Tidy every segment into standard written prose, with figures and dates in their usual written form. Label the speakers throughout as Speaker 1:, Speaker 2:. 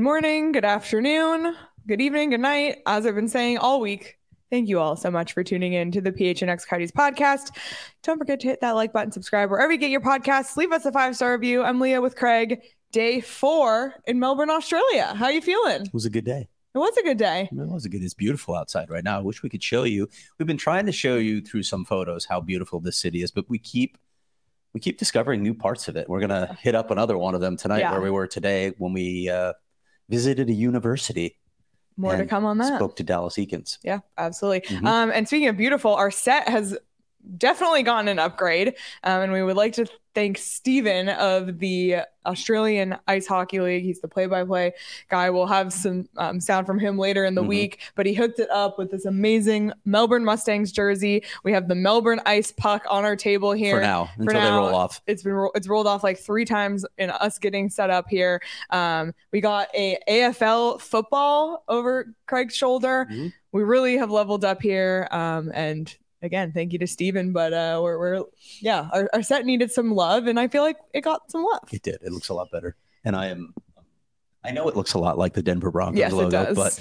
Speaker 1: morning, good afternoon, good evening, good night. As I've been saying all week, thank you all so much for tuning in to the PHNX Coyotes podcast. Don't forget to hit that like button, subscribe wherever you get your podcasts. Leave us a 5-star review. I'm Leah with Craig. Day 4 in Melbourne, Australia. How are you feeling?
Speaker 2: It was a good day.
Speaker 1: It was a good day.
Speaker 2: It was a good. It's beautiful outside right now. I wish we could show you. We've been trying to show you through some photos how beautiful this city is, but we keep discovering new parts of it. We're gonna hit up another one of them tonight, where we were today when we visited a university.
Speaker 1: More to come on that.
Speaker 2: Spoke to Dallas Eakins.
Speaker 1: Yeah, absolutely. And speaking of beautiful, our set has definitely gotten an upgrade. And we would like to thank Steven of the Australian Ice Hockey League. He's the play-by-play guy. We'll have some sound from him later in the week, but he hooked it up with this amazing Melbourne Mustangs jersey. We have the Melbourne Ice puck on our table here.
Speaker 2: Until they roll off.
Speaker 1: It's rolled off like 3 times in us getting set up here. We got a AFL football over Craig's shoulder. We really have leveled up here. And again, thank you to Steven, but our set needed some love, and I feel like it got some love.
Speaker 2: It did. It looks a lot better. And I know it looks a lot like the Denver Broncos logo,
Speaker 1: it does.
Speaker 2: But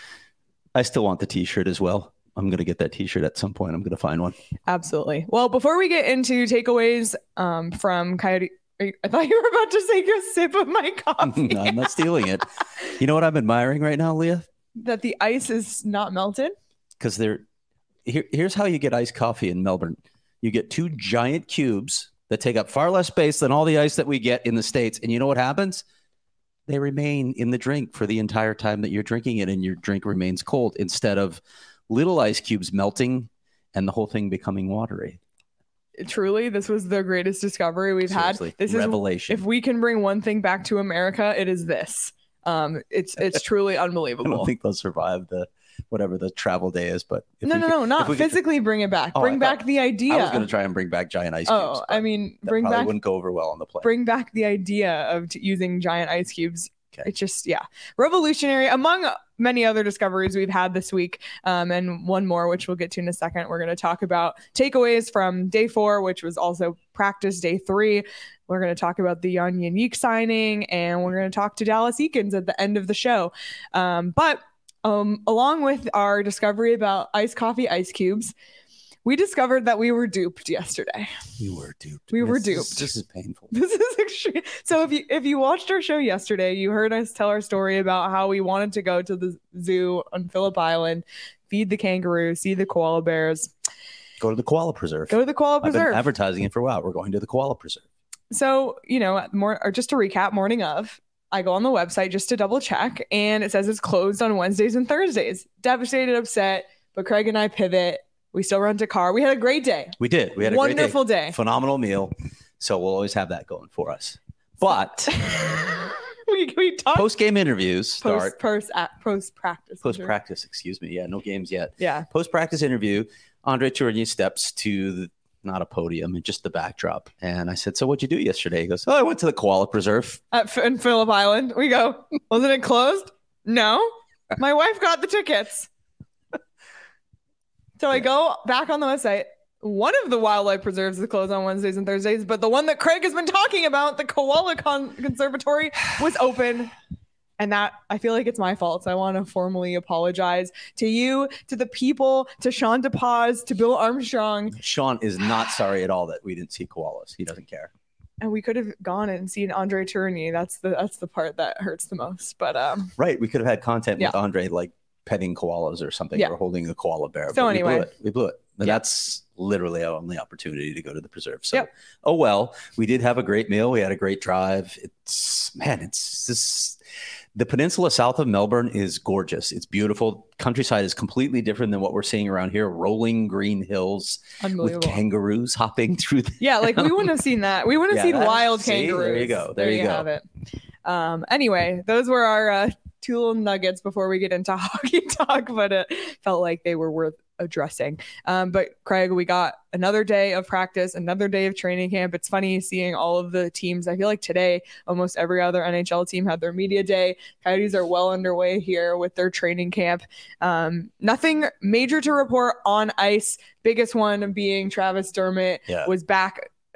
Speaker 2: I still want the t-shirt as well. I'm going to get that t-shirt at some point. I'm going to find one.
Speaker 1: Absolutely. Well, before we get into takeaways from Coyote, I thought you were about to take a sip of my coffee.
Speaker 2: No, I'm not stealing it. You know what I'm admiring right now, Leah?
Speaker 1: That the ice is not melted?
Speaker 2: Because here's how you get iced coffee in Melbourne. You get 2 giant cubes that take up far less space than all the ice that we get in the States. And you know what happens? They remain in the drink for the entire time that you're drinking it, and your drink remains cold instead of little ice cubes melting and the whole thing becoming watery.
Speaker 1: Truly, this was the greatest discovery we've
Speaker 2: Seriously,
Speaker 1: had. This
Speaker 2: revelation.
Speaker 1: If we can bring one thing back to America, it is this. It's truly unbelievable.
Speaker 2: I don't think they'll survive whatever the travel day is, but
Speaker 1: not physically bring it back. Bring back the idea.
Speaker 2: I was going to try and bring back giant ice cubes.
Speaker 1: I mean,
Speaker 2: wouldn't go over well on the plane.
Speaker 1: Bring back the idea of using giant ice cubes. Okay. It's just, revolutionary among many other discoveries we've had this week. And one more, which we'll get to in a second. We're going to talk about takeaways from day 4, which was also practice day 3. We're going to talk about the Jan Jeník signing, and we're going to talk to Dallas Eakins at the end of the show. But along with our discovery about iced coffee ice cubes, we discovered that we were duped yesterday.
Speaker 2: We were duped. This is painful.
Speaker 1: This is extreme. So if you watched our show yesterday, you heard us tell our story about how we wanted to go to the zoo on Phillip Island, feed the kangaroos, see the koala bears.
Speaker 2: Go to the koala preserve.
Speaker 1: I've been
Speaker 2: advertising it for a while. We're going to the koala preserve.
Speaker 1: So, just to recap, morning of, I go on the website just to double check, and it says it's closed on Wednesdays and Thursdays. Devastated, upset, but Craig and I pivot. We still rent a car. We had a great day.
Speaker 2: We did. We had a
Speaker 1: wonderful day.
Speaker 2: Phenomenal meal. So we'll always have that going for us. But
Speaker 1: we talked
Speaker 2: post-game interviews start.
Speaker 1: Post-practice.
Speaker 2: Post-practice, excuse me. Yeah, no games yet.
Speaker 1: Yeah.
Speaker 2: Post-practice interview, Andre Tourigny steps to not a podium, just the backdrop. And I said, so what'd you do yesterday? He goes, I went to the koala preserve.
Speaker 1: In Phillip Island. We go, wasn't it closed? No. My wife got the tickets. So I go back on the website. One of the wildlife preserves is closed on Wednesdays and Thursdays, but the one that Craig has been talking about, the Koala Conservatory, was open. And that, I feel like it's my fault. So I want to formally apologize to you, to the people, to Sean DePaz, to Bill Armstrong.
Speaker 2: Sean is not sorry at all that we didn't see koalas. He doesn't care.
Speaker 1: And we could have gone and seen Andre Tourigny. That's the part that hurts the most. But
Speaker 2: right, we could have had content with Andre, like petting koalas or something, or holding a koala bear.
Speaker 1: So anyway,
Speaker 2: we blew it. But that's literally our only opportunity to go to the preserve. So, oh well, we did have a great meal. We had a great drive. The peninsula south of Melbourne is gorgeous. It's beautiful. Countryside is completely different than what we're seeing around here. Rolling green hills with kangaroos hopping through.
Speaker 1: Like we wouldn't have seen that. We wouldn't have seen wild kangaroos.
Speaker 2: There you go. There you go.
Speaker 1: Have it. Anyway, those were our 2 little nuggets before we get into hockey talk, but it felt like they were worth addressing. But Craig, we got another day of practice, another day of training camp. It's funny seeing all of the teams. I feel like today, almost every other NHL team had their media day. Coyotes are well underway here with their training camp. Nothing major to report on ice. Biggest one being Travis Dermott was back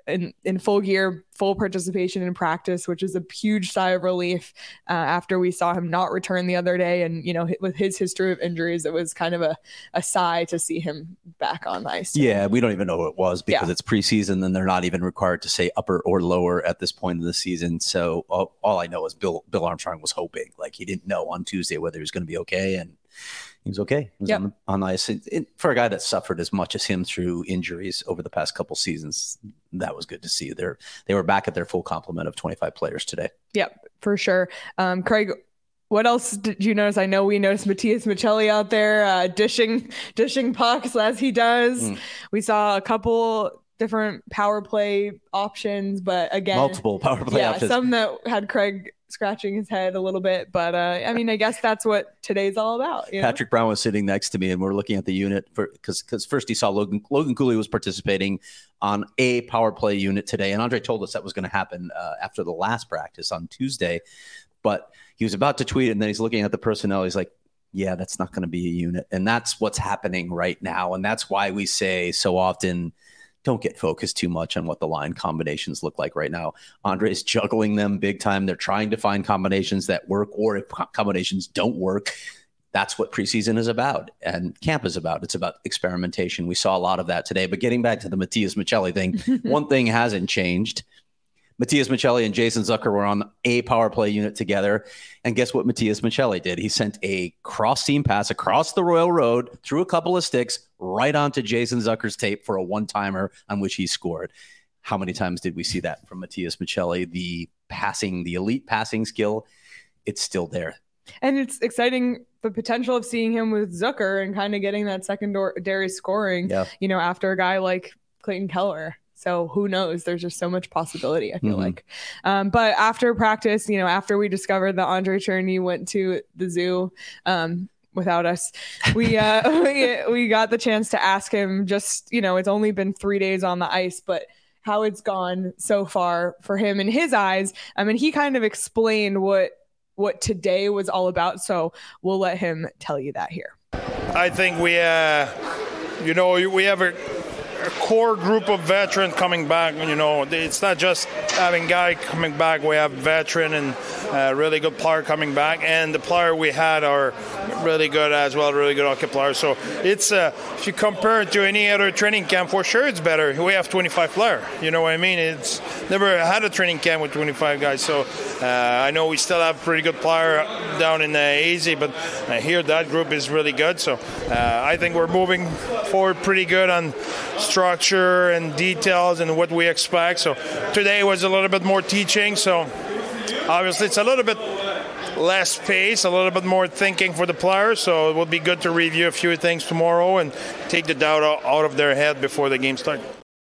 Speaker 1: in full gear, full participation in practice, which is a huge sigh of relief after we saw him not return the other day. And, with his history of injuries, it was kind of a sigh to see him back on the ice.
Speaker 2: Yeah, we don't even know who it was because it's preseason and they're not even required to say upper or lower at this point in the season. So all I know is Bill Armstrong was hoping, like he didn't know on Tuesday whether he was going to be okay, and he was okay. He was on ice. For a guy that suffered as much as him through injuries over the past couple seasons, that was good to see. They were back at their full complement of 25 players today.
Speaker 1: Yep, for sure. Craig, what else did you notice? I know we noticed Matias Maccelli out there dishing pucks as he does. We saw a couple different power play options, but again,
Speaker 2: multiple power play options.
Speaker 1: Some that had Craig scratching his head a little bit, but I guess that's what today's all about.
Speaker 2: Patrick Brown was sitting next to me, and we're looking at the unit because first he saw Logan Cooley was participating on a power play unit today, and Andre told us that was going to happen after the last practice on Tuesday, but he was about to tweet, and then he's looking at the personnel. He's like, yeah, that's not going to be a unit, and that's what's happening right now, and that's why we say so often, don't get focused too much on what the line combinations look like right now. Andre's juggling them big time. They're trying to find combinations that work, or if combinations don't work, that's what preseason is about and camp is about. It's about experimentation. We saw a lot of that today. But getting back to the Matias Maccelli thing, one thing hasn't changed. Matias Maccelli and Jason Zucker were on a power play unit together. And guess what Matias Maccelli did? He sent a cross-seam pass across the Royal Road, through a couple of sticks, right onto Jason Zucker's tape for a one-timer on which he scored. How many times did we see that from Matias Maccelli? The elite passing skill, it's still there.
Speaker 1: And it's exciting, the potential of seeing him with Zucker and kind of getting that secondary scoring, after a guy like Clayton Keller. So who knows? There's just so much possibility, I feel like. But after practice, after we discovered that Andre Cherney went to the zoo without us, we got the chance to ask him just, it's only been 3 days on the ice, but how it's gone so far for him in his eyes. He kind of explained what today was all about. So we'll let him tell you that here.
Speaker 3: I think we have a core group of veterans coming back. It's not just having guy coming back. We have veteran and really good player coming back, and the player we had are really good as well, really good hockey players. So it's if you compare it to any other training camp, for sure it's better. We have 25 players. You know what I mean? It's never had a training camp with 25 guys. So I know we still have pretty good player down in AZ, but here that group is really good. So I think we're moving forward pretty good on structure and details and what we expect. So today was a little bit more teaching. So obviously it's a little bit less pace, a little bit more thinking for the players. So it will be good to review a few things tomorrow and take the doubt out of their head before the game starts.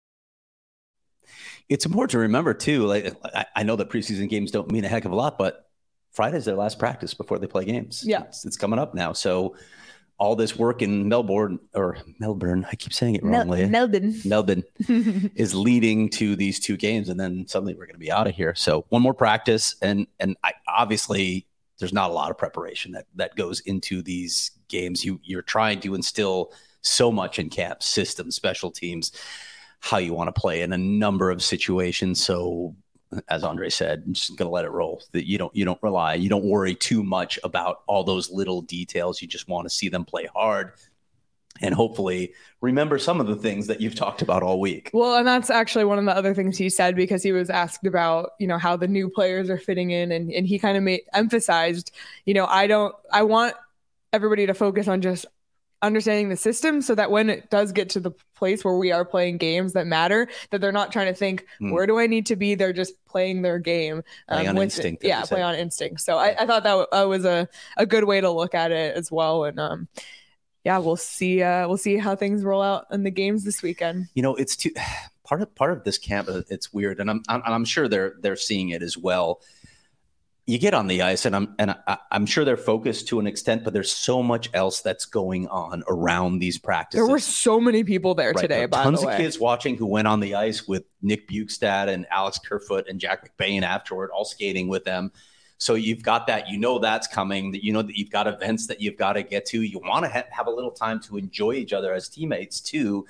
Speaker 2: It's important to remember too, like I know that preseason games don't mean a heck of a lot, but Friday's their last practice before they play games.
Speaker 1: Yeah.
Speaker 2: It's coming up now. So all this work in Melbourne, I keep saying it wrongly. Melbourne is leading to these two games, and then suddenly we're going to be out of here. So one more practice, and obviously there's not a lot of preparation that goes into these games. You're trying to instill so much in camp, systems, special teams, how you want to play in a number of situations. So as Andre said, I'm just going to let it roll. That you don't worry too much about all those little details. You just want to see them play hard and hopefully remember some of the things that you've talked about all week.
Speaker 1: Well, and that's actually one of the other things he said, because he was asked about, how the new players are fitting in, and he kind of emphasized, I want everybody to focus on just understanding the system, so that when it does get to the place where we are playing games that matter, that they're not trying to think, where do I need to be? They're just playing their game.
Speaker 2: Play on instinct.
Speaker 1: Play on instinct. So I thought that was a good way to look at it as well. And we'll see how things roll out in the games this weekend.
Speaker 2: It's part of this camp. It's weird. And I'm sure they're seeing it as well. You get on the ice, and I'm sure they're focused to an extent, but there's so much else that's going on around these practices.
Speaker 1: There were so many people there today, by the way.
Speaker 2: Tons of kids watching who went on the ice with Nick Bukestad and Alex Kerfoot and Jack McBain afterward, all skating with them. So you've got that, that's coming, that that you've got events that you've got to get to. You want to have a little time to enjoy each other as teammates too.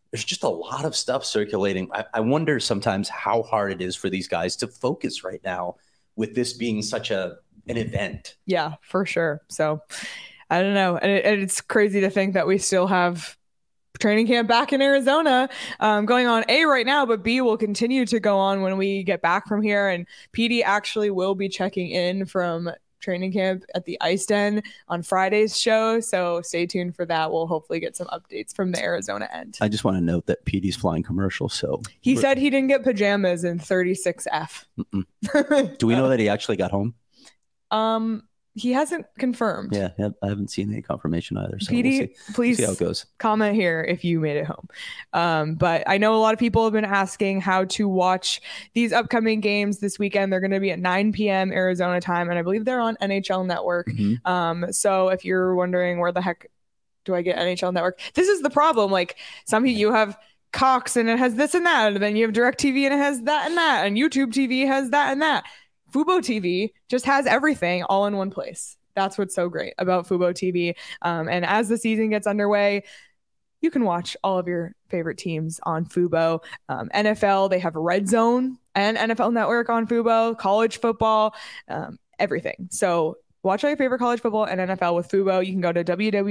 Speaker 2: there's just a lot of stuff circulating. I wonder sometimes how hard it is for these guys to focus right now with this being such an event.
Speaker 1: Yeah, for sure. So I don't know. And it's crazy to think that we still have training camp back in Arizona going on right now, but B will continue to go on when we get back from here. And PD actually will be checking in from training camp at the Ice Den on Friday's show. So stay tuned for that. We'll hopefully get some updates from the Arizona end.
Speaker 2: I just want to note that PD's flying commercial. So
Speaker 1: he said he didn't get pajamas in 36F.
Speaker 2: Do we know that he actually got home?
Speaker 1: He hasn't confirmed.
Speaker 2: Yeah, I haven't seen any confirmation either. So
Speaker 1: PD, please
Speaker 2: see how it goes.
Speaker 1: Comment here if you made it home. But I know a lot of people have been asking how to watch these upcoming games this weekend. They're going to be at 9 p.m. Arizona time, and I believe they're on NHL Network. Mm-hmm. So if you're wondering where the heck do I get NHL Network, this is the problem. Like some of you have Cox and it has this and that, and then you have DirecTV and it has that and that, and YouTube TV has that and that. Fubo TV just has everything all in one place. That's what's so great about Fubo TV. And as the season gets underway, you can watch all of your favorite teams on Fubo. NFL, they have Red Zone and NFL Network on Fubo, college football, everything. So watch all your favorite college football and NFL with Fubo. You can go to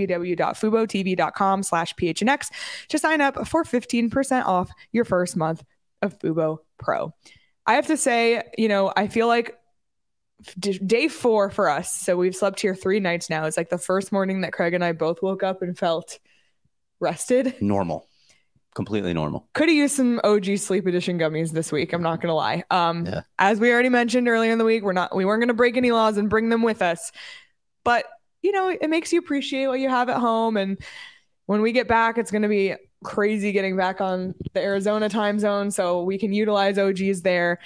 Speaker 1: www.fubotv.com/PHNX to sign up for 15% off your first month of Fubo Pro. I have to say, I feel like day 4 for us. So we've slept here 3 nights now. It's like the first morning that Craig and I both woke up and felt rested.
Speaker 2: Normal. Completely normal.
Speaker 1: Could have used some OG Sleep Edition gummies this week. I'm not going to lie. As we already mentioned earlier in the week, we weren't going to break any laws and bring them with us. But, it makes you appreciate what you have at home. And when we get back, it's going to be crazy getting back on the Arizona time zone, so we can utilize OGs there.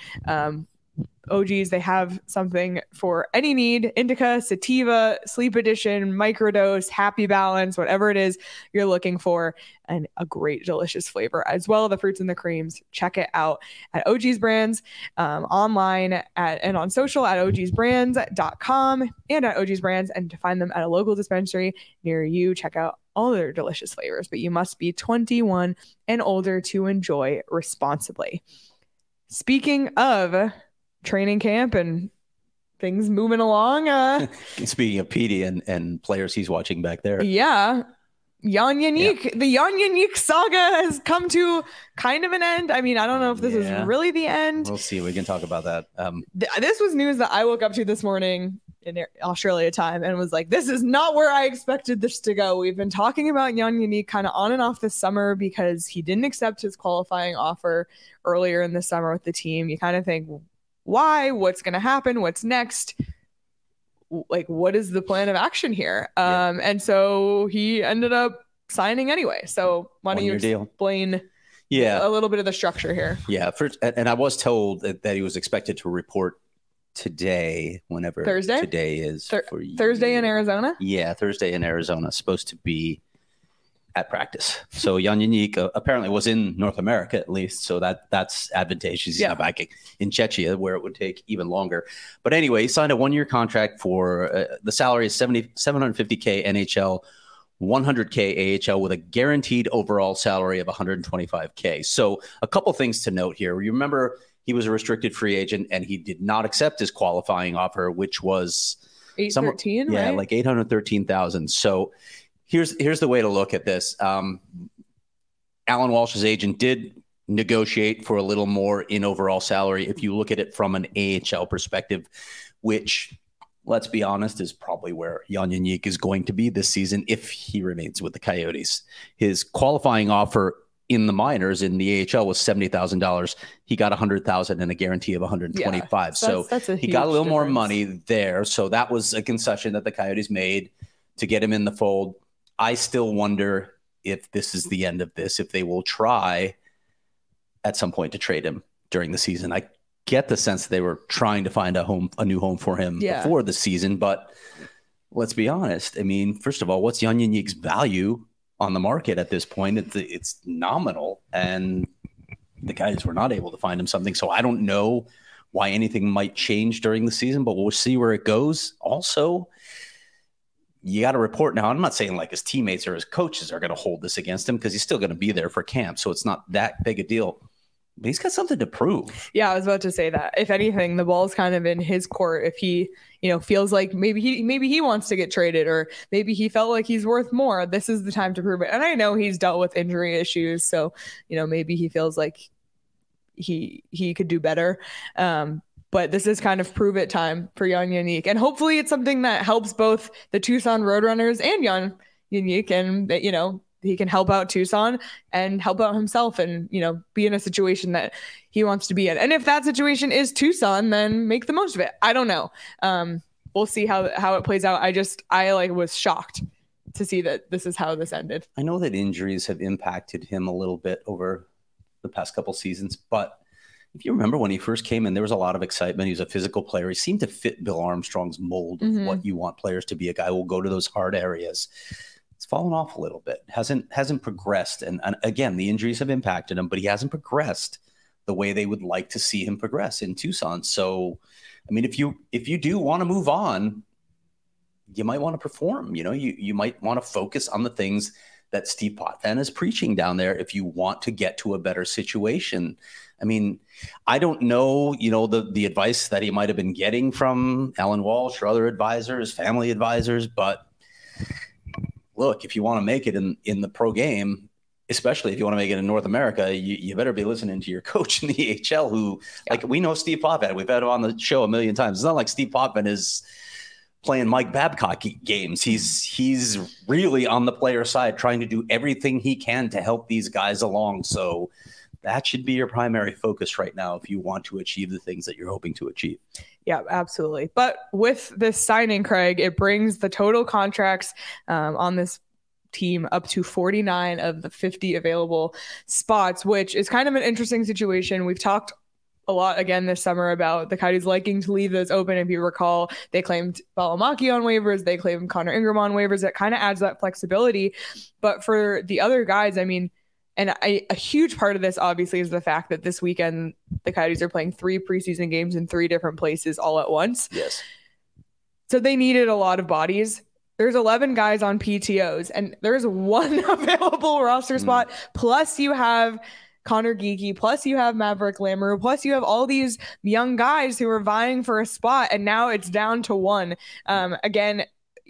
Speaker 1: OGs, they have something for any need: indica, sativa, sleep edition, microdose, happy balance, whatever it is you're looking for, and a great delicious flavor as well. The fruits and the creams, check it out at OG's Brands, online and on social at ogsbrands.com and at OG's Brands, and to find them at a local dispensary near you. Check out all their delicious flavors, but you must be 21 and older to enjoy responsibly. Speaking of training camp and things moving
Speaker 2: along. Speaking of Petey and players he's watching back there.
Speaker 1: Yeah. Jan Jeník. Yeah. The Jan Jeník saga has come to kind of an end. I mean, I don't know if this is really the end.
Speaker 2: We'll see. We can talk about that.
Speaker 1: This was news that I woke up to this morning in Australia time and was like, this is not where I expected this to go. We've been talking about Jan Jeník kind of on and off this summer because he didn't accept his qualifying offer earlier in the summer with the team. You kind of think, why? What's going to happen? What's next? Like, what is the plan of action here? And so he ended up signing anyway. So why don't you explain a little bit of the structure here?
Speaker 2: Yeah. And I was told that he was expected to report today, whenever
Speaker 1: Thursday
Speaker 2: today is.
Speaker 1: Thursday in Arizona?
Speaker 2: Yeah, Thursday in Arizona. Supposed to be at practice. So Jan Jeník apparently was in North America at least, so that's advantageous. He's not back in Czechia where it would take even longer. But anyway, he signed a 1-year contract for the salary is $750K NHL, $100K AHL with a guaranteed overall salary of $125K. So a couple things to note here. You remember he was a restricted free agent and he did not accept his qualifying offer, which was
Speaker 1: $813,000, right?
Speaker 2: Like $813,000. So here's the way to look at this. Alan Walsh's agent did negotiate for a little more in overall salary if you look at it from an AHL perspective, which, let's be honest, is probably where Jan Jeník is going to be this season if he remains with the Coyotes. His qualifying offer in the minors in the AHL was $70,000. He got $100,000 and a guarantee of $125,000.
Speaker 1: That's
Speaker 2: he got a little more money there. So that was a concession that the Coyotes made to get him in the fold. I still wonder if this is the end of this, if they will try at some point to trade him during the season. I get the sense they were trying to find a new home for him before the season, but let's be honest. I mean, first of all, what's Jan Jeník's value on the market at this point? It's nominal, and the guys were not able to find him something. So I don't know why anything might change during the season, but we'll see where it goes. Also, you got to report now. I'm not saying like his teammates or his coaches are going to hold this against him because he's still going to be there for camp. So it's not that big a deal. But he's got something to prove.
Speaker 1: Yeah, I was about to say that. If anything, the ball's kind of in his court. If he, feels like maybe he wants to get traded, or maybe he felt like he's worth more, this is the time to prove it. And I know he's dealt with injury issues, so maybe he feels like he could do better. But this is kind of prove it time for Jan Jeník. And hopefully it's something that helps both the Tucson Roadrunners and Jan Jeník, and that, he can help out Tucson and help out himself and, be in a situation that he wants to be in. And if that situation is Tucson, then make the most of it. I don't know. We'll see how it plays out. I was shocked to see that this is how this ended.
Speaker 2: I know that injuries have impacted him a little bit over the past couple seasons, but if you remember when he first came in, there was a lot of excitement. He was a physical player. He seemed to fit Bill Armstrong's mold of what you want players to be, a guy who will go to those hard areas. It's fallen off a little bit, hasn't progressed. And again, the injuries have impacted him, but he hasn't progressed the way they would like to see him progress in Tucson. So, I mean, if you do want to move on, you might want to perform. You might want to focus on the things that Steve Potvin is preaching down there if you want to get to a better situation. I mean, I don't know, the advice that he might have been getting from Alan Walsh or other advisors, family advisors, but look, if you want to make it in the pro game, especially if you want to make it in North America, you better be listening to your coach in the AHL who, like, we know Steve Potvin. We've had him on the show a million times. It's not like Steve Potvin is playing Mike Babcock games. He's really on the player side, trying to do everything he can to help these guys along. So that should be your primary focus right now if you want to achieve the things that you're hoping to achieve.
Speaker 1: Yeah, absolutely. But with this signing, Craig, it brings the total contracts on this team up to 49 of the 50 available spots, which is kind of an interesting situation. We've talked a lot again this summer about the Coyotes liking to leave those open. If you recall, they claimed Valimaki on waivers, they claimed Connor Ingram on waivers. That kind of adds that flexibility. But for the other guys, I mean, and a huge part of this obviously is the fact that this weekend the Coyotes are playing 3 preseason games in 3 different places all at once.
Speaker 2: Yes.
Speaker 1: So they needed a lot of bodies. There's 11 guys on PTOs and there's 1 available roster spot. Plus you have Connor Geekie, plus you have Maverick Lamoureux, plus you have all these young guys who are vying for a spot, and now it's down to 1. Again,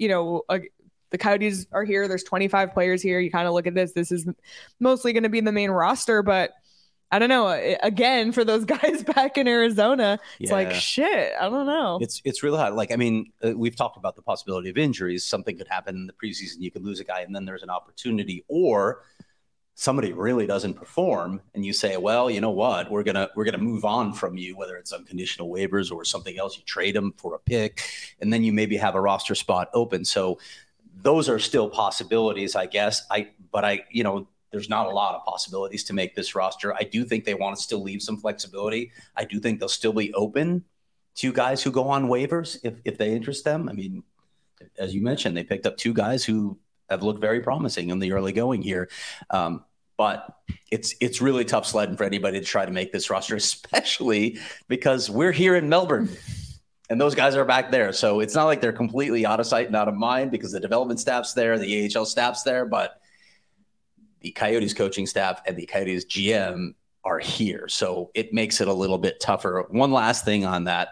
Speaker 1: the Coyotes are here. There's 25 players here. You kind of look at this. This is mostly going to be the main roster, but I don't know. Again, for those guys back in Arizona, it's like, shit, I don't know.
Speaker 2: It's really hard. Like, I mean, we've talked about the possibility of injuries. Something could happen in the preseason. You could lose a guy and then there's an opportunity, or somebody really doesn't perform and you say, well, you know what, we're going to move on from you, whether it's unconditional waivers or something else. You trade them for a pick and then you maybe have a roster spot open. So those are still possibilities, I guess. There's not a lot of possibilities to make this roster. I do think they want to still leave some flexibility. I do think they'll still be open to guys who go on waivers if they interest them. I mean, as you mentioned, they picked up 2 guys who have looked very promising in the early going here. But it's really tough sledding for anybody to try to make this roster, especially because we're here in Melbourne and those guys are back there. So it's not like they're completely out of sight and out of mind because the development staff's there, the AHL staff's there, but the Coyotes coaching staff and the Coyotes GM are here. So it makes it a little bit tougher. One last thing on that.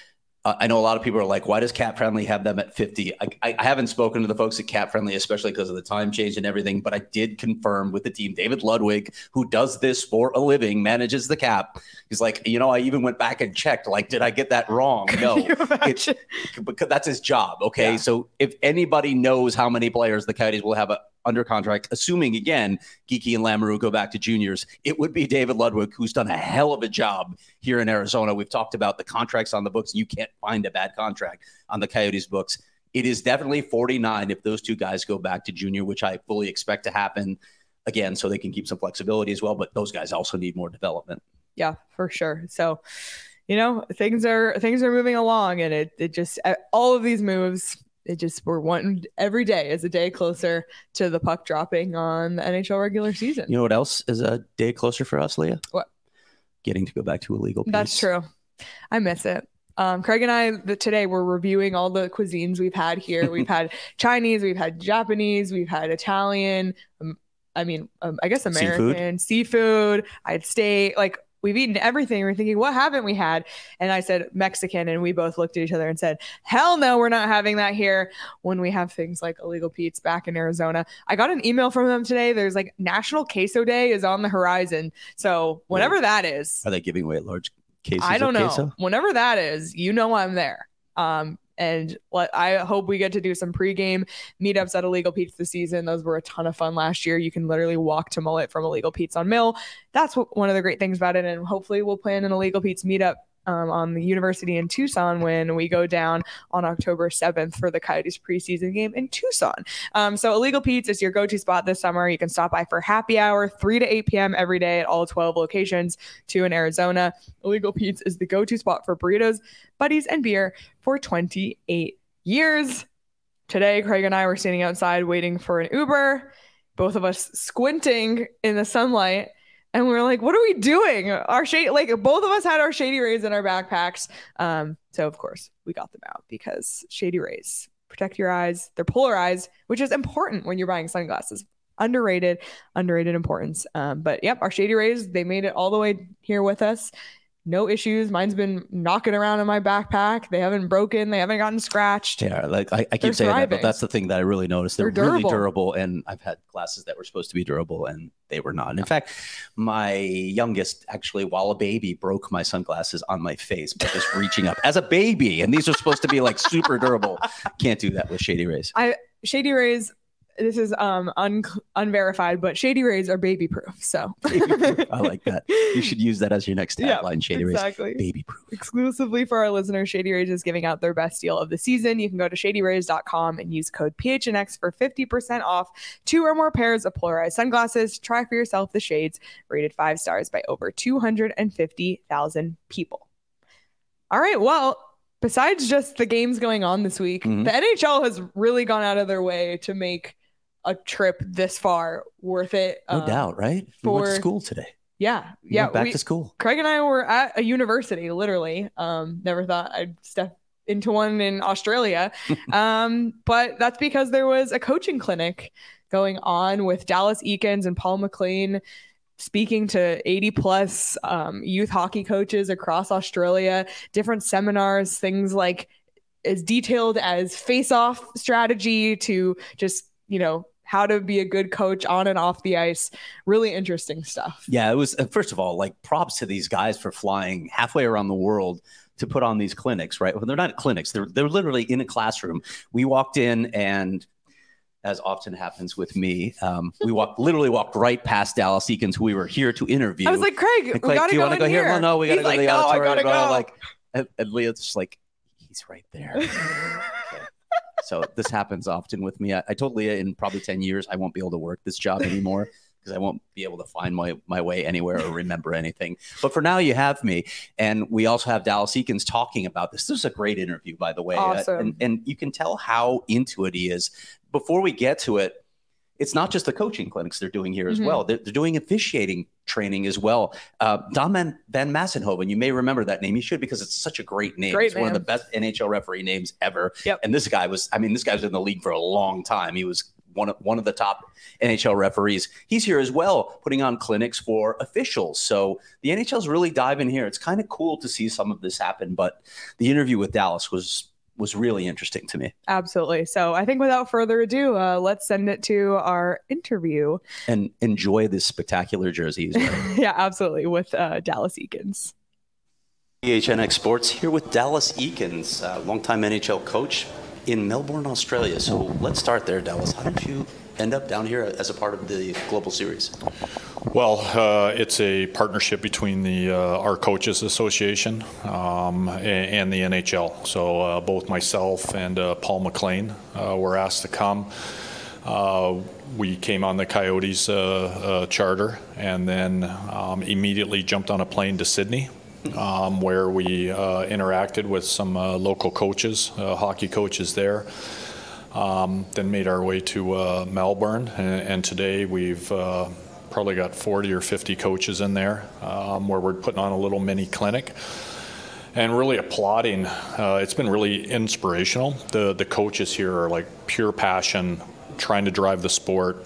Speaker 2: I know a lot of people are like, why does Cap Friendly have them at 50? I haven't spoken to the folks at Cap Friendly, especially because of the time change and everything, but I did confirm with the team, David Ludwig, who does this for a living, manages the cap. He's like, I even went back and checked, like, did I get that wrong? No, because that's his job. Okay. Yeah. So if anybody knows how many players the Coyotes will have under contract, assuming, again, Geekie and Lamoureux go back to juniors, it would be David Ludwig, who's done a hell of a job here in Arizona. We've talked about the contracts on the books. You can't find a bad contract on the Coyotes books. It is definitely 49 if those 2 guys go back to junior, which I fully expect to happen, again, so they can keep some flexibility as well. But those guys also need more development.
Speaker 1: Yeah, for sure. So, things are moving along, and it just, all of these moves, we're one every day is a day closer to the puck dropping on the NHL regular season.
Speaker 2: You know what else is a day closer for us, Leah?
Speaker 1: What?
Speaker 2: Getting to go back to illegal peace.
Speaker 1: That's true. I miss it. Craig and I today we're reviewing all the cuisines we've had here. We've had Chinese, we've had Japanese, we've had Italian. I guess American seafood. I had steak. Like, we've eaten everything. We're thinking, what haven't we had? And I said Mexican, and we both looked at each other and said, hell no, we're not having that here when we have things like Illegal Pete's back in Arizona. I got an email from them today. There's like National Queso Day is on the horizon. So whenever that is.
Speaker 2: Are they giving away large cases
Speaker 1: I don't know.
Speaker 2: Queso?
Speaker 1: Whenever that is, I'm there. And I hope we get to do some pregame meetups at Illegal Pete's this season. Those were a ton of fun last year. You can literally walk to Mullet from Illegal Pete's on Mill. That's one of the great things about it. And hopefully we'll plan an Illegal Pete's meetup on the University in Tucson when we go down on October 7th for the Coyotes preseason game in Tucson. So Illegal Pete's is your go-to spot this summer. You can stop by for happy hour 3 to 8 p.m. every day at all 12 locations, 2 in Arizona. Illegal Pete's is the go-to spot for burritos, buddies, and beer for 28 years. Today, Craig and I were standing outside waiting for an Uber, both of us squinting in the sunlight. And we were like, what are we doing? Both of us had our Shady Rays in our backpacks. So of course we got them out because Shady Rays protect your eyes. They're polarized, which is important when you're buying sunglasses. Underrated importance. But yep, our Shady Rays, they made it all the way here with us. No issues. Mine's been knocking around in my backpack. They haven't broken. They haven't gotten scratched.
Speaker 2: Yeah, like I keep saying that, but that's the thing that I really noticed. They're really durable, and I've had glasses that were supposed to be durable, and they were not. In fact, my youngest, actually, while a baby, broke my sunglasses on my face by just reaching up as a baby, and these are supposed to be like super durable. Can't do that with Shady Rays.
Speaker 1: Shady Rays. This is unverified, but Shady Rays are baby proof. So
Speaker 2: I like that. You should use that as your next tagline. Shady
Speaker 1: exactly.
Speaker 2: Rays, baby proof.
Speaker 1: Exclusively for our listeners, Shady Rays is giving out their best deal of the season. You can go to shadyrays.com and use code PHNX for 50% off 2 or more pairs of polarized sunglasses. Try for yourself the shades, rated 5 stars by over 250,000 people. All right, well, besides just the games going on this week, the NHL has really gone out of their way to make a trip this far worth it.
Speaker 2: No doubt, right? We went to school today.
Speaker 1: Yeah.
Speaker 2: Back to school.
Speaker 1: Craig and I were at a university, literally. Never thought I'd step into one in Australia. But that's because there was a coaching clinic going on with Dallas Eakins and Paul McLean, speaking to 80 plus youth hockey coaches across Australia, different seminars, things like as detailed as face-off strategy to just, how to be a good coach on and off the ice. Really interesting stuff.
Speaker 2: Yeah, it was, first of all, like, props to these guys for flying halfway around the world to put on these clinics, right? Well, they're not clinics. They're literally in a classroom. We walked in, and as often happens with me, we literally walked right past Dallas Eakins, who we were here to interview.
Speaker 1: I was like, Craig, we gotta
Speaker 2: do you want to go here? Well, no, we got to go to the auditorium.
Speaker 1: I gotta
Speaker 2: go. And Leah's just like, he's right there. So this happens often with me. I told Leah in probably 10 years, I won't be able to work this job anymore because I won't be able to find my way anywhere or remember anything. But for now, you have me. And we also have Dallas Eakins talking about this. This is a great interview, by the way.
Speaker 1: Awesome.
Speaker 2: And you can tell how into it he is. Before we get to it, it's not just the coaching clinics they're doing here as well. They're doing officiating training as well. Don Van Massenhoven, you may remember that name. You should, because it's such a great name. It's one of the best NHL referee names ever.
Speaker 1: Yep.
Speaker 2: And this guy was in the league for a long time. He was one of the top NHL referees. He's here as well, putting on clinics for officials. So the NHL's really diving here. It's kind of cool to see some of this happen. But the interview with Dallas was really interesting to me.
Speaker 1: Absolutely. So I think without further ado, let's send it to our interview.
Speaker 2: And enjoy this spectacular jersey he's wearing.
Speaker 1: Yeah, absolutely. With Dallas Eakins.
Speaker 2: PHNX Sports here with Dallas Eakins, longtime NHL coach in Melbourne, Australia. So let's start there, Dallas. How did you end up down here as a part of the Global Series?
Speaker 4: Well, it's a partnership between our Coaches Association and the NHL. So both myself and Paul McLean were asked to come. We came on the Coyotes charter and then immediately jumped on a plane to Sydney, where we interacted with some local coaches, hockey coaches there. Then made our way to Melbourne, and today we've probably got 40 or 50 coaches in there, where we're putting on a little mini clinic. and really applauding. It's been really inspirational. The coaches here are like pure passion, trying to drive the sport,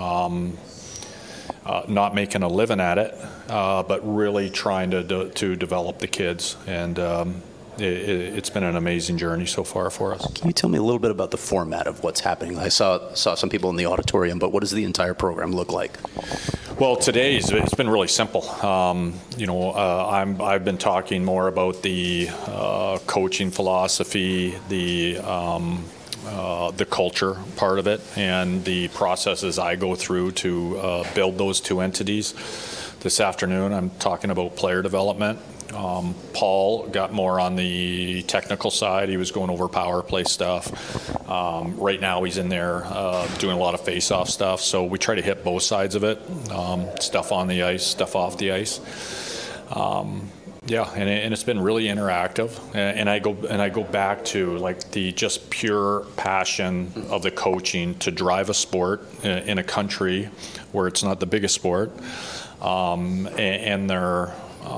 Speaker 4: not making a living at it, but really trying to develop the kids. And it's been an amazing journey so far for us.
Speaker 2: Can you tell me a little bit about the format of what's happening? I saw some people in the auditorium, but what does the entire program look like?
Speaker 4: Well, it's been really simple. I've been talking more about the coaching philosophy, the culture part of it, and the processes I go through to build those two entities. This afternoon, I'm talking about player development. Paul got more on the technical side. He was going over power play stuff. Right now he's in there doing a lot of face-off stuff. So we try to hit both sides of it, stuff on the ice, stuff off the ice. And it's been really interactive. And I go back to like the just pure passion of the coaching to drive a sport in a country where it's not the biggest sport, and their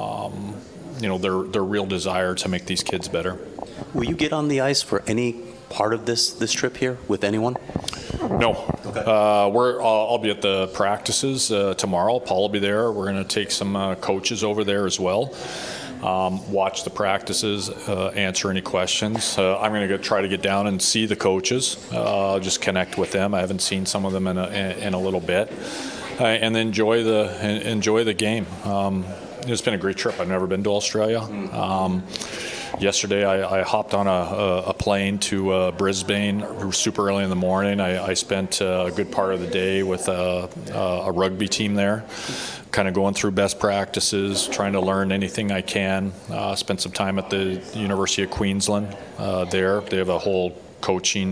Speaker 4: real desire to make these kids better.
Speaker 2: Will you get on the ice for any part of this trip here with anyone?
Speaker 4: No. Okay. I'll be at the practices tomorrow. Paul will be there. We're going to take some coaches over there as well. Watch the practices, answer any questions. I'm going to try to get down and see the coaches, just connect with them. I haven't seen some of them in a little bit, and enjoy the game. It's been a great trip. I've never been to Australia. Yesterday, I hopped on a plane to Brisbane super early in the morning. I spent a good part of the day with a rugby team there, kind of going through best practices, trying to learn anything I can. Spent some time at the University of Queensland there. They have a whole coaching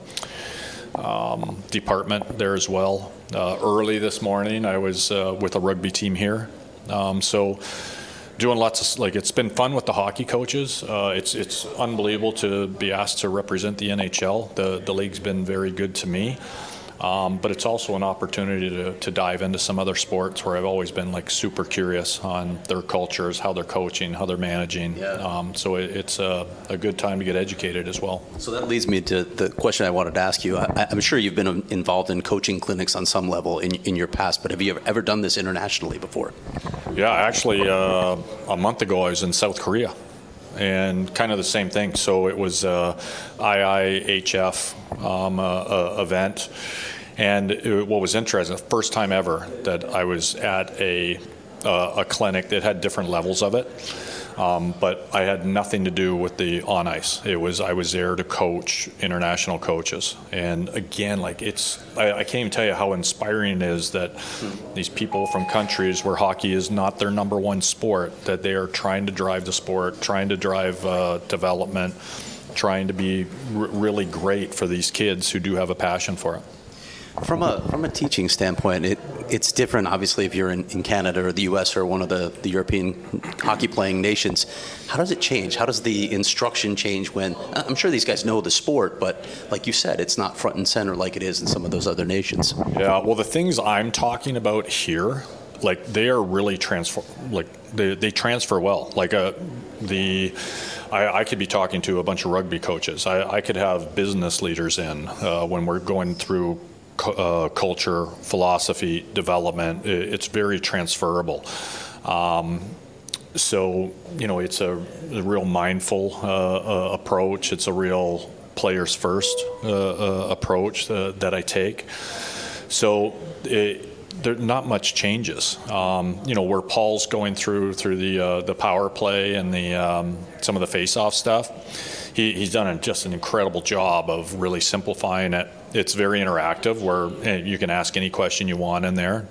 Speaker 4: department there as well. Early this morning, I was with a rugby team here. So doing lots of, it's been fun with the hockey coaches. It's unbelievable to be asked to represent the NHL. The league's been very good to me. But it's also an opportunity to dive into some other sports where I've always been super curious on their cultures, how they're coaching, how they're managing. Yeah. So it's a good time to get educated as well.
Speaker 2: So that leads me to the question I wanted to ask you. I'm sure you've been involved in coaching clinics on some level in your past, but have you ever done this internationally before?
Speaker 4: Yeah, actually, a month ago I was in South Korea. And kind of the same thing. So it was IIHF event. And what was interesting, the first time ever that I was at a clinic that had different levels of it. But I had nothing to do with the on ice. I was there to coach international coaches. And again, I can't even tell you how inspiring it is that these people from countries where hockey is not their number one sport, that they are trying to drive the sport, trying to drive development, trying to be really great for these kids who do have a passion for it.
Speaker 2: From a teaching standpoint, it's different, obviously, if you're in Canada or the U.S. or one of the European hockey-playing nations. How does it change? How does the instruction change when, I'm sure these guys know the sport, but like you said, it's not front and center like it is in some of those other nations?
Speaker 4: Yeah, well, the things I'm talking about here, they are really they transfer well. I could be talking to a bunch of rugby coaches. I could have business leaders in when we're going through culture, philosophy, development. It's very transferable. So, it's a real mindful approach. It's a real players first approach that I take. So there not much changes. Where Paul's going through the power play and the some of the face-off stuff, he's done just an incredible job of really simplifying it. It's very interactive, where you can ask any question you want in there,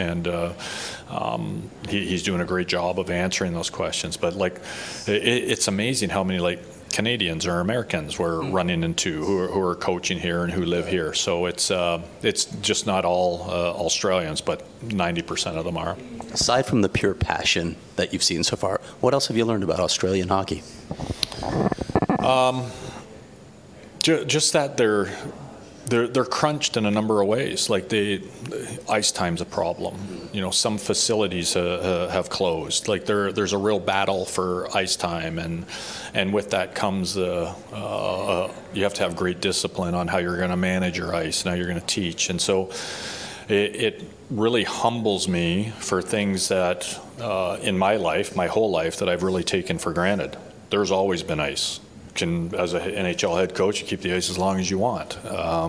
Speaker 4: he's doing a great job of answering those questions. But it's amazing how many Canadians or Americans we're running into who are coaching here and who live here. So it's just not all Australians, but 90% of them are.
Speaker 2: Aside from the pure passion that you've seen so far, what else have you learned about Australian hockey?
Speaker 4: Just that they're crunched in a number of ways. Like ice time's a problem. Some facilities have closed. Like there's a real battle for ice time, and with that comes you have to have great discipline on how you're going to manage your ice and how you're going to teach. And so it really humbles me for things that in my life, my whole life, that I've really taken for granted. There's always been ice. As an NHL head coach, you keep the ice as long as you want.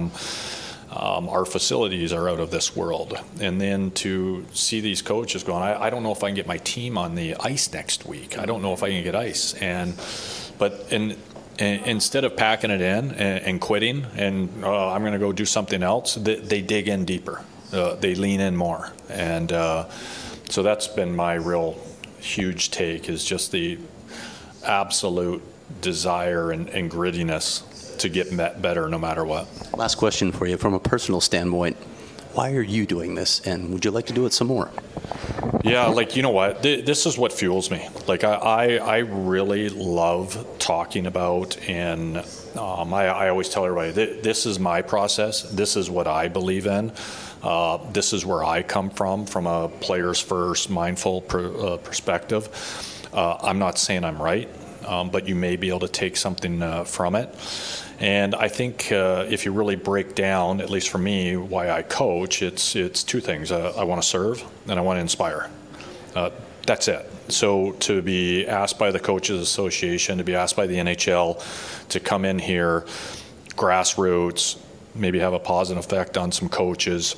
Speaker 4: Our facilities are out of this world. And then to see these coaches going, I don't know if I can get my team on the ice next week. I don't know if I can get ice. But instead of packing it in and quitting and I'm going to go do something else, they dig in deeper. They lean in more. And so that's been my real huge take, is just the absolute desire and grittiness to get better no matter what.
Speaker 2: Last question for you. From a personal standpoint, why are you doing this, and would you like to do it some more?
Speaker 4: Yeah, you know what? This is what fuels me. I really love talking about, and I always tell everybody, this is my process. This is what I believe in. This is where I come from a players first, mindful perspective. I'm not saying I'm right. But you may be able to take something from it. And I think if you really break down, at least for me, why I coach, it's two things. I want to serve and I want to inspire. That's it. So to be asked by the Coaches Association, to be asked by the NHL to come in here, grassroots, maybe have a positive effect on some coaches,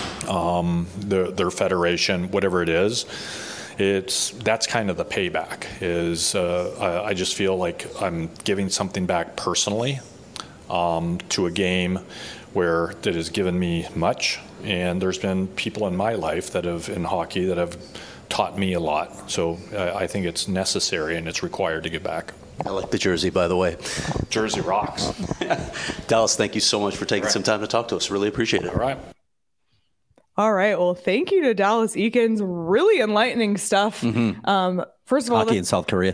Speaker 4: their federation, whatever it is, that's kind of the payback. I just feel like I'm giving something back personally to a game that has given me much, and there's been people in my life in hockey that have taught me a lot. So I think it's necessary and it's required to give back.
Speaker 2: I like the jersey, by the way.
Speaker 4: Jersey rocks.
Speaker 2: Dallas, thank you so much for taking some time to talk to us. Really appreciate it.
Speaker 4: All right.
Speaker 1: All right. Well, thank you to Dallas Eakins. Really enlightening stuff. Mm-hmm. First of all,
Speaker 2: hockey in South Korea.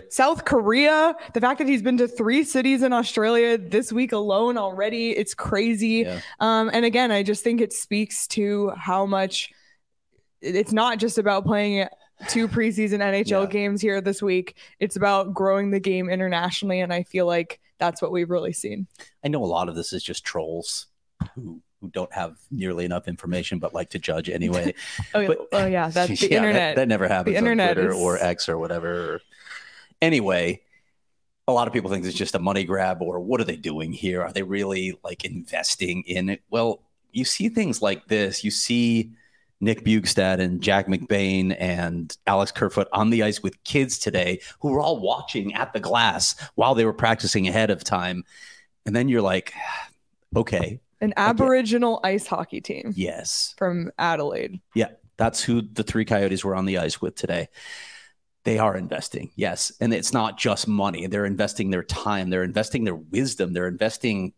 Speaker 1: The fact that he's been to 3 cities in Australia this week alone already, it's crazy. Yeah. And again, I just think it speaks to how much it's not just about playing 2 preseason NHL games here this week. It's about growing the game internationally. And I feel like that's what we've really seen.
Speaker 2: I know a lot of this is just trolls who don't have nearly enough information but like to judge anyway.
Speaker 1: That's the internet.
Speaker 2: That never happens
Speaker 1: the internet
Speaker 2: on Twitter or X or whatever. Anyway, a lot of people think it's just a money grab, or what are they doing here? Are they really investing in it? Well, you see things like this. You see Nick Bjugstad and Jack McBain and Alex Kerfoot on the ice with kids today who were all watching at the glass while they were practicing ahead of time. And then you're like, okay.
Speaker 1: An Aboriginal ice hockey team.
Speaker 2: Yes.
Speaker 1: From Adelaide.
Speaker 2: Yeah. That's who the 3 Coyotes were on the ice with today. They are investing. Yes. And it's not just money. They're investing their time. They're investing their wisdom. They're investing.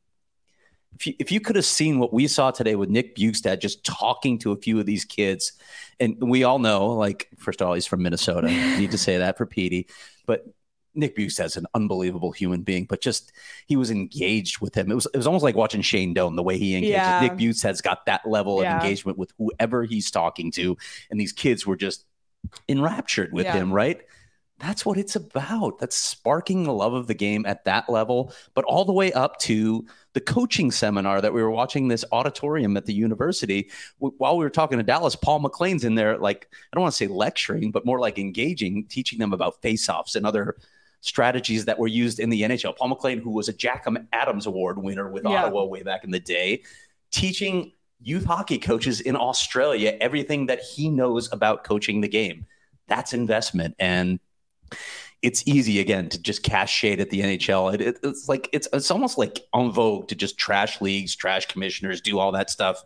Speaker 2: If you could have seen what we saw today with Nick Bjugstad just talking to a few of these kids, and we all know, first of all, he's from Minnesota. I need to say that for Petey. But Nick Bjugstad's an unbelievable human being, but just he was engaged with him. It was almost like watching Shane Doan, the way he engaged. Yeah. Nick Bjugstad's got that level of engagement with whoever he's talking to, and these kids were just enraptured with him, right? That's what it's about. That's sparking the love of the game at that level, but all the way up to the coaching seminar that we were watching this auditorium at the university. While we were talking to Dallas, Paul McLean's in there, I don't want to say lecturing, but more like engaging, teaching them about face-offs and other strategies that were used in the NHL. Paul McLean, who was a Jack Adams Award winner with Ottawa way back in the day, teaching youth hockey coaches in Australia everything that he knows about coaching the game. That's investment. And it's easy, again, to just cast shade at the NHL. It's almost like en vogue to just trash leagues, trash commissioners, do all that stuff.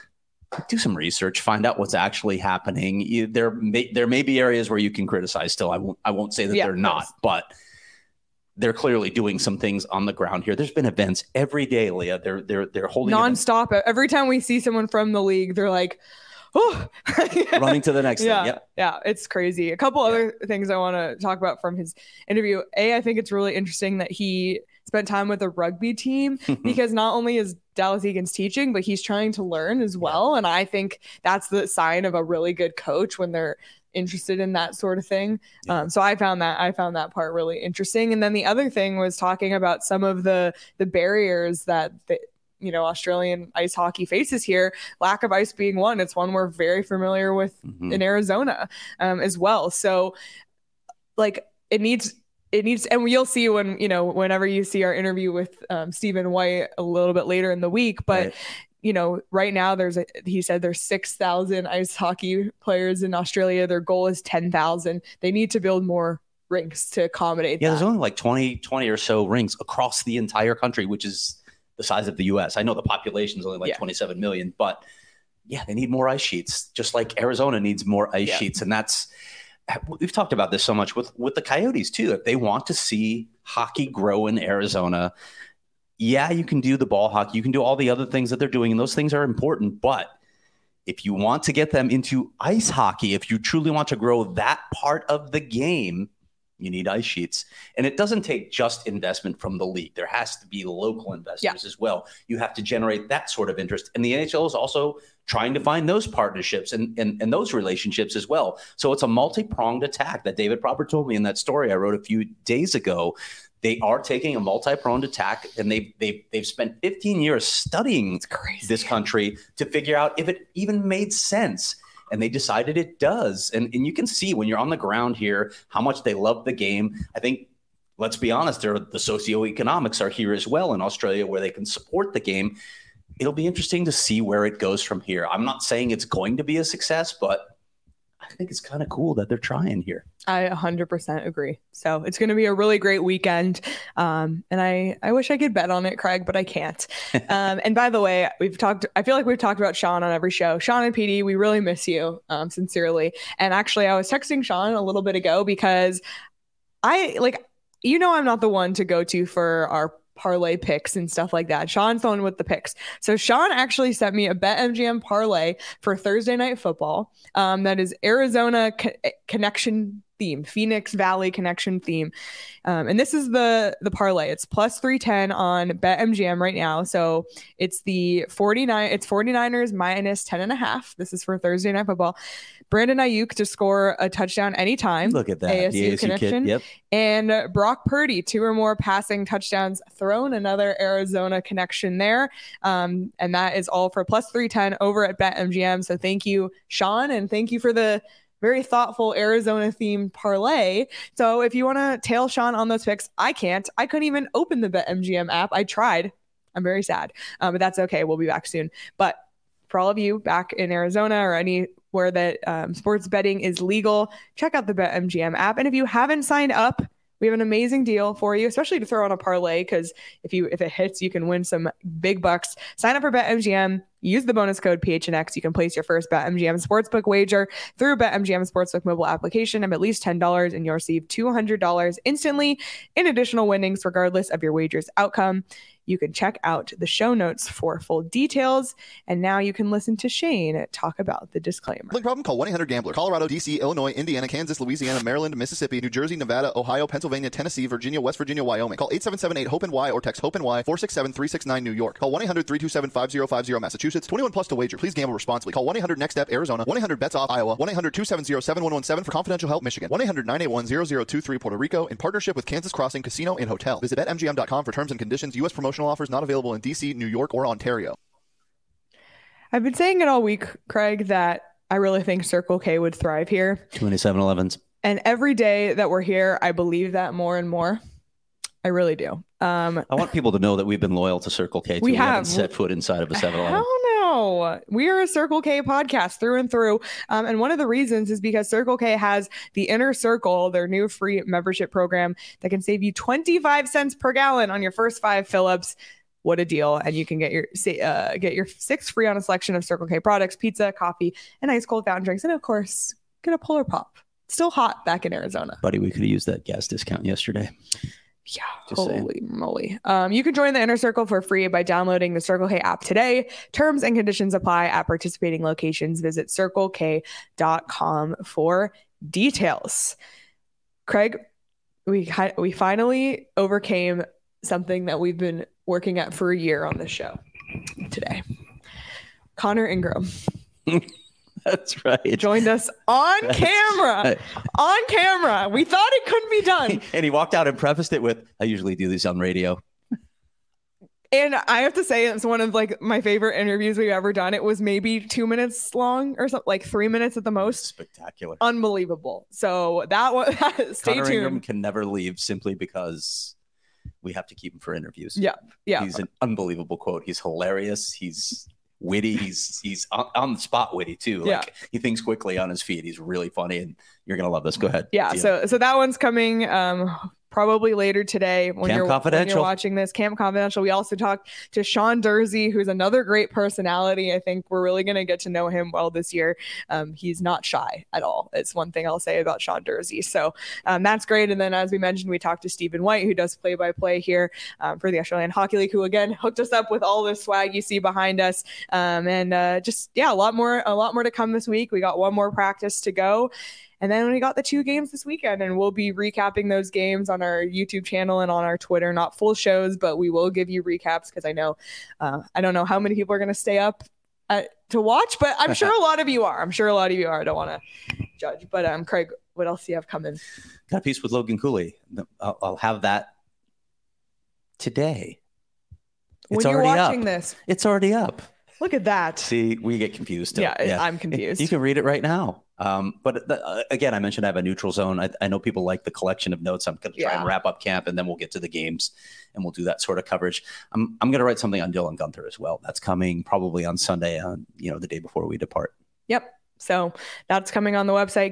Speaker 2: Do some research, find out what's actually happening. There may be areas where you can criticize still. I won't say that they're not, but they're clearly doing some things on the ground here. There's been events every day, Leah. They're holding
Speaker 1: nonstop. Events. Every time we see someone from the league, they're like, oh,
Speaker 2: running to the next thing. Yep.
Speaker 1: Yeah, it's crazy. A couple other things I want to talk about from his interview. I think it's really interesting that he spent time with a rugby team because not only is Dallas Eakins teaching, but he's trying to learn as well. And I think that's the sign of a really good coach when they're interested in that sort of thing. So I found that part really interesting. And then the other thing was talking about some of the barriers that Australian ice hockey faces here, lack of ice being one. It's one we're very familiar with in Arizona as well. So like it needs, and you'll see whenever you see our interview with Stephen White a little bit later in the week, but right now he said there's 6,000 ice hockey players in Australia. Their goal is 10,000. They need to build more rinks to accommodate that.
Speaker 2: There's only like 20 or so rinks across the entire country, which is the size of the US. I know the population is only like 27 million, but they need more ice sheets, just like Arizona needs more ice sheets. And we've talked about this so much with the Coyotes too. If they want to see hockey grow in Arizona, you can do the ball hockey. You can do all the other things that they're doing, and those things are important. But if you want to get them into ice hockey, if you truly want to grow that part of the game, you need ice sheets. And it doesn't take just investment from the league. There has to be local investors as well. You have to generate that sort of interest. And the NHL is also trying to find those partnerships and those relationships as well. So it's a multi-pronged attack that David Probert told me in that story I wrote a few days ago. They are taking a multi-pronged attack, and they've spent 15 years studying this country to figure out if it even made sense. And they decided it does. And you can see when you're on the ground here how much they love the game. I think, let's be honest, the socioeconomics are here as well in Australia where they can support the game. It'll be interesting to see where it goes from here. I'm not saying it's going to be a success, but I think it's kind of cool that they're trying here.
Speaker 1: I 100% agree. So it's going to be a really great weekend. And I wish I could bet on it, Craig, but I can't. And by the way, I feel like we've talked about Sean on every show. Sean and PD, we really miss you, sincerely. And actually, I was texting Sean a little bit ago because I'm not the one to go to for our parlay picks and stuff like that. Sean's the one with the picks. So Sean actually sent me a BetMGM parlay for Thursday Night Football. That is Arizona connection theme, Phoenix Valley connection theme. And this is the parlay. It's plus 310 on BetMGM right now. So it's the 49ers minus 10.5. This is for Thursday Night Football. Brandon Ayuk to score a touchdown anytime.
Speaker 2: Look at that.
Speaker 1: ASU connection.
Speaker 2: Kid. Yep.
Speaker 1: And Brock Purdy, 2 or more passing touchdowns thrown. Another Arizona connection there. And that is all for plus 310 over at BetMGM. So thank you, Sean. And thank you for the very thoughtful Arizona themed parlay. So if you want to tail Sean on those picks, I can't. I couldn't even open the BetMGM app. I tried. I'm very sad. But that's okay. We'll be back soon. But for all of you back in Arizona or anywhere that sports betting is legal, check out the BetMGM app. And if you haven't signed up, we have an amazing deal for you, especially to throw on a parlay, because if it hits, you can win some big bucks. Sign up for BetMGM. Use the bonus code PHNX. You can place your first BetMGM Sportsbook wager through BetMGM Sportsbook mobile application of at least $10, and you'll receive $200 instantly in additional winnings, regardless of your wager's outcome. You can check out the show notes for full details. And now you can listen to Shane talk about the disclaimer.
Speaker 5: Gambling problem? Call 1-800-GAMBLER. Colorado, D.C., Illinois, Indiana, Kansas, Louisiana, Maryland, Mississippi, New Jersey, Nevada, Ohio, Pennsylvania, Tennessee, Virginia, West Virginia, Wyoming. Call 877-8-HOPE-NY or text HOPE-NY 467-369 New York. Call 1-800-327-5050 Massachusetts. 21 plus to wager. Please gamble responsibly. Call 1-800-NEXT-STEP Arizona. 1-800-BETS-OFF Iowa. 1-800-270-7117 for confidential help Michigan. 1-800-981-0023 Puerto Rico in partnership with Kansas Crossing Casino and Hotel. Visit BetMGM.com for terms and conditions. U.S. promotional offers not available in D.C., New York, or Ontario.
Speaker 1: I've been saying it all week, Craig, that I really think Circle K would thrive here.
Speaker 2: 27-11s.
Speaker 1: And every day that we're here, I believe that more and more. I really do.
Speaker 2: I want people to know that we've been loyal to Circle K. We haven't set foot inside of a 7-Eleven.
Speaker 1: Hell no. We are a Circle K podcast through and through. And one of the reasons is because Circle K has the Inner Circle, their new free membership program that can save you 25 cents per gallon on your first 5 fill-ups. What a deal. And you can get your 6 free on a selection of Circle K products, pizza, coffee, and ice cold fountain drinks. And of course, get a Polar Pop. Still hot back in Arizona.
Speaker 2: Buddy, we could have used that gas discount yesterday.
Speaker 1: Yeah, holy moly. You can join the Inner Circle for free by downloading the Circle K app today. Terms and conditions apply at participating locations. Visit CircleK.com for details. Craig, we finally overcame something that we've been working at for a year on this show. today. Connor Ingram.
Speaker 2: That's right.
Speaker 1: Joined us on camera.
Speaker 2: Right.
Speaker 1: On camera. We thought it couldn't be done.
Speaker 2: And he walked out and prefaced it with, I usually do this on radio.
Speaker 1: And I have to say, it's one of like my favorite interviews we've ever done. It was maybe 2 minutes long or something, like 3 minutes at the most.
Speaker 2: Spectacular.
Speaker 1: Unbelievable. So that was, stay
Speaker 2: Connor
Speaker 1: tuned.
Speaker 2: Ingram can never leave simply because we have to keep him for interviews.
Speaker 1: Yeah.
Speaker 2: He's an unbelievable quote. He's hilarious. He's witty. He's on the spot witty too. Like he thinks quickly on his feet. He's really funny, and you're gonna love this. Go ahead.
Speaker 1: Yeah. So that one's coming probably later today when you're watching this. Camp Confidential. We also talked to Sean Dursey, who's another great personality. I think we're really gonna get to know him well this year. He's not shy at all. It's one thing I'll say about Sean Dursey. So that's great. And then, as we mentioned, we talked to Stephen White, who does play-by-play here for the Australian Hockey League, who again hooked us up with all the swag you see behind us. A lot more to come this week. We got one more practice to go. And then we got the 2 games this weekend, and we'll be recapping those games on our YouTube channel and on our Twitter. Not full shows, but we will give you recaps because I know, I don't know how many people are going to stay up to watch, but I'm sure a lot of you are. I don't want to judge, but Craig, what else do you have coming?
Speaker 2: Got a piece with Logan Cooley. I'll have that today.
Speaker 1: When you're watching this,
Speaker 2: it's already up.
Speaker 1: Look at that.
Speaker 2: See, we get confused.
Speaker 1: Yeah, I'm confused.
Speaker 2: You can read it right now. Again, I mentioned I have a neutral zone. I know people like the collection of notes. I'm going to try and wrap up camp, and then we'll get to the games, and we'll do that sort of coverage. I'm going to write something on Dylan Guenther as well. That's coming probably on Sunday, the day before we depart.
Speaker 1: Yep. So that's coming on the website,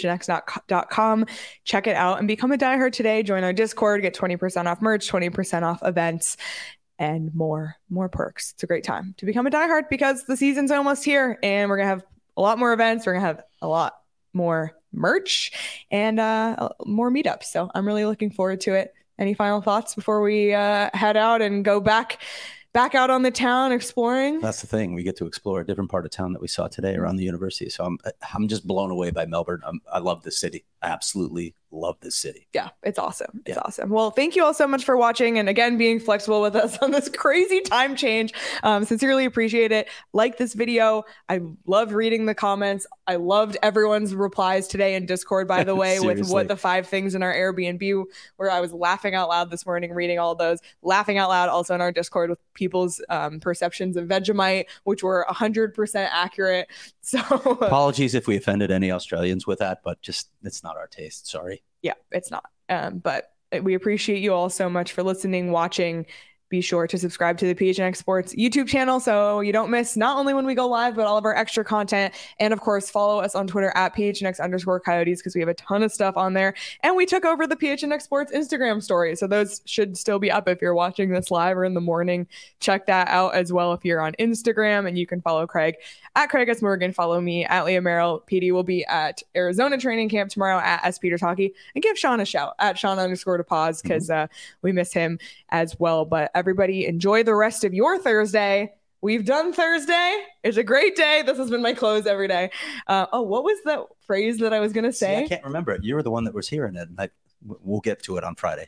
Speaker 1: gophnx.com. Check it out and become a diehard today. Join our Discord, get 20% off merch, 20% off events, and more perks. It's a great time to become a diehard because the season's almost here, and we're going to have a lot more events. We're going to have a lot more merch and more meetups. So I'm really looking forward to it. Any final thoughts before we head out and go back out on the town exploring?
Speaker 2: That's the thing. We get to explore a different part of town that we saw today around the university. So I'm just blown away by Melbourne. I love this city. I absolutely love this city.
Speaker 1: Yeah, it's awesome. It's awesome. Well, thank you all so much for watching and again being flexible with us on this crazy time change. Sincerely appreciate it. Like this video. I loved reading the comments. I loved everyone's replies today in Discord, by the way, with what the 5 things in our Airbnb, where I was laughing out loud this morning reading all those, laughing out loud also in our Discord with people's perceptions of Vegemite, which were 100% accurate. So
Speaker 2: apologies if we offended any Australians with that, but just it's not our taste. Sorry.
Speaker 1: Yeah, it's not. But we appreciate you all so much for listening, watching. Be sure to subscribe to the PHNX Sports YouTube channel so you don't miss not only when we go live, but all of our extra content. And of course, follow us on Twitter at PHNX_Coyotes because we have a ton of stuff on there. And we took over the PHNX Sports Instagram story. So those should still be up if you're watching this live or in the morning. Check that out as well if you're on Instagram. And you can follow Craig at Craig S. Morgan. Follow me at Leah Merrill. PD will be at Arizona training camp tomorrow at S. Peters Hockey. And give Sean a shout at Sean_DePaz because we miss him as well. But everybody enjoy the rest of your Thursday. We've done Thursday. It's a great day. This has been my close every day. What was that phrase that I was going to say?
Speaker 2: See, I can't remember it. You were the one that was hearing it. And we'll get to it on Friday.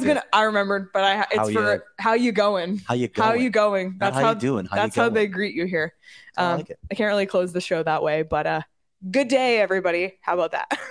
Speaker 1: I remembered, but how you going?
Speaker 2: How you going?
Speaker 1: How you going?
Speaker 2: That's how you doing.
Speaker 1: That's how they greet you here.
Speaker 2: I like it.
Speaker 1: I can't really close the show that way, but good day, everybody. How about that?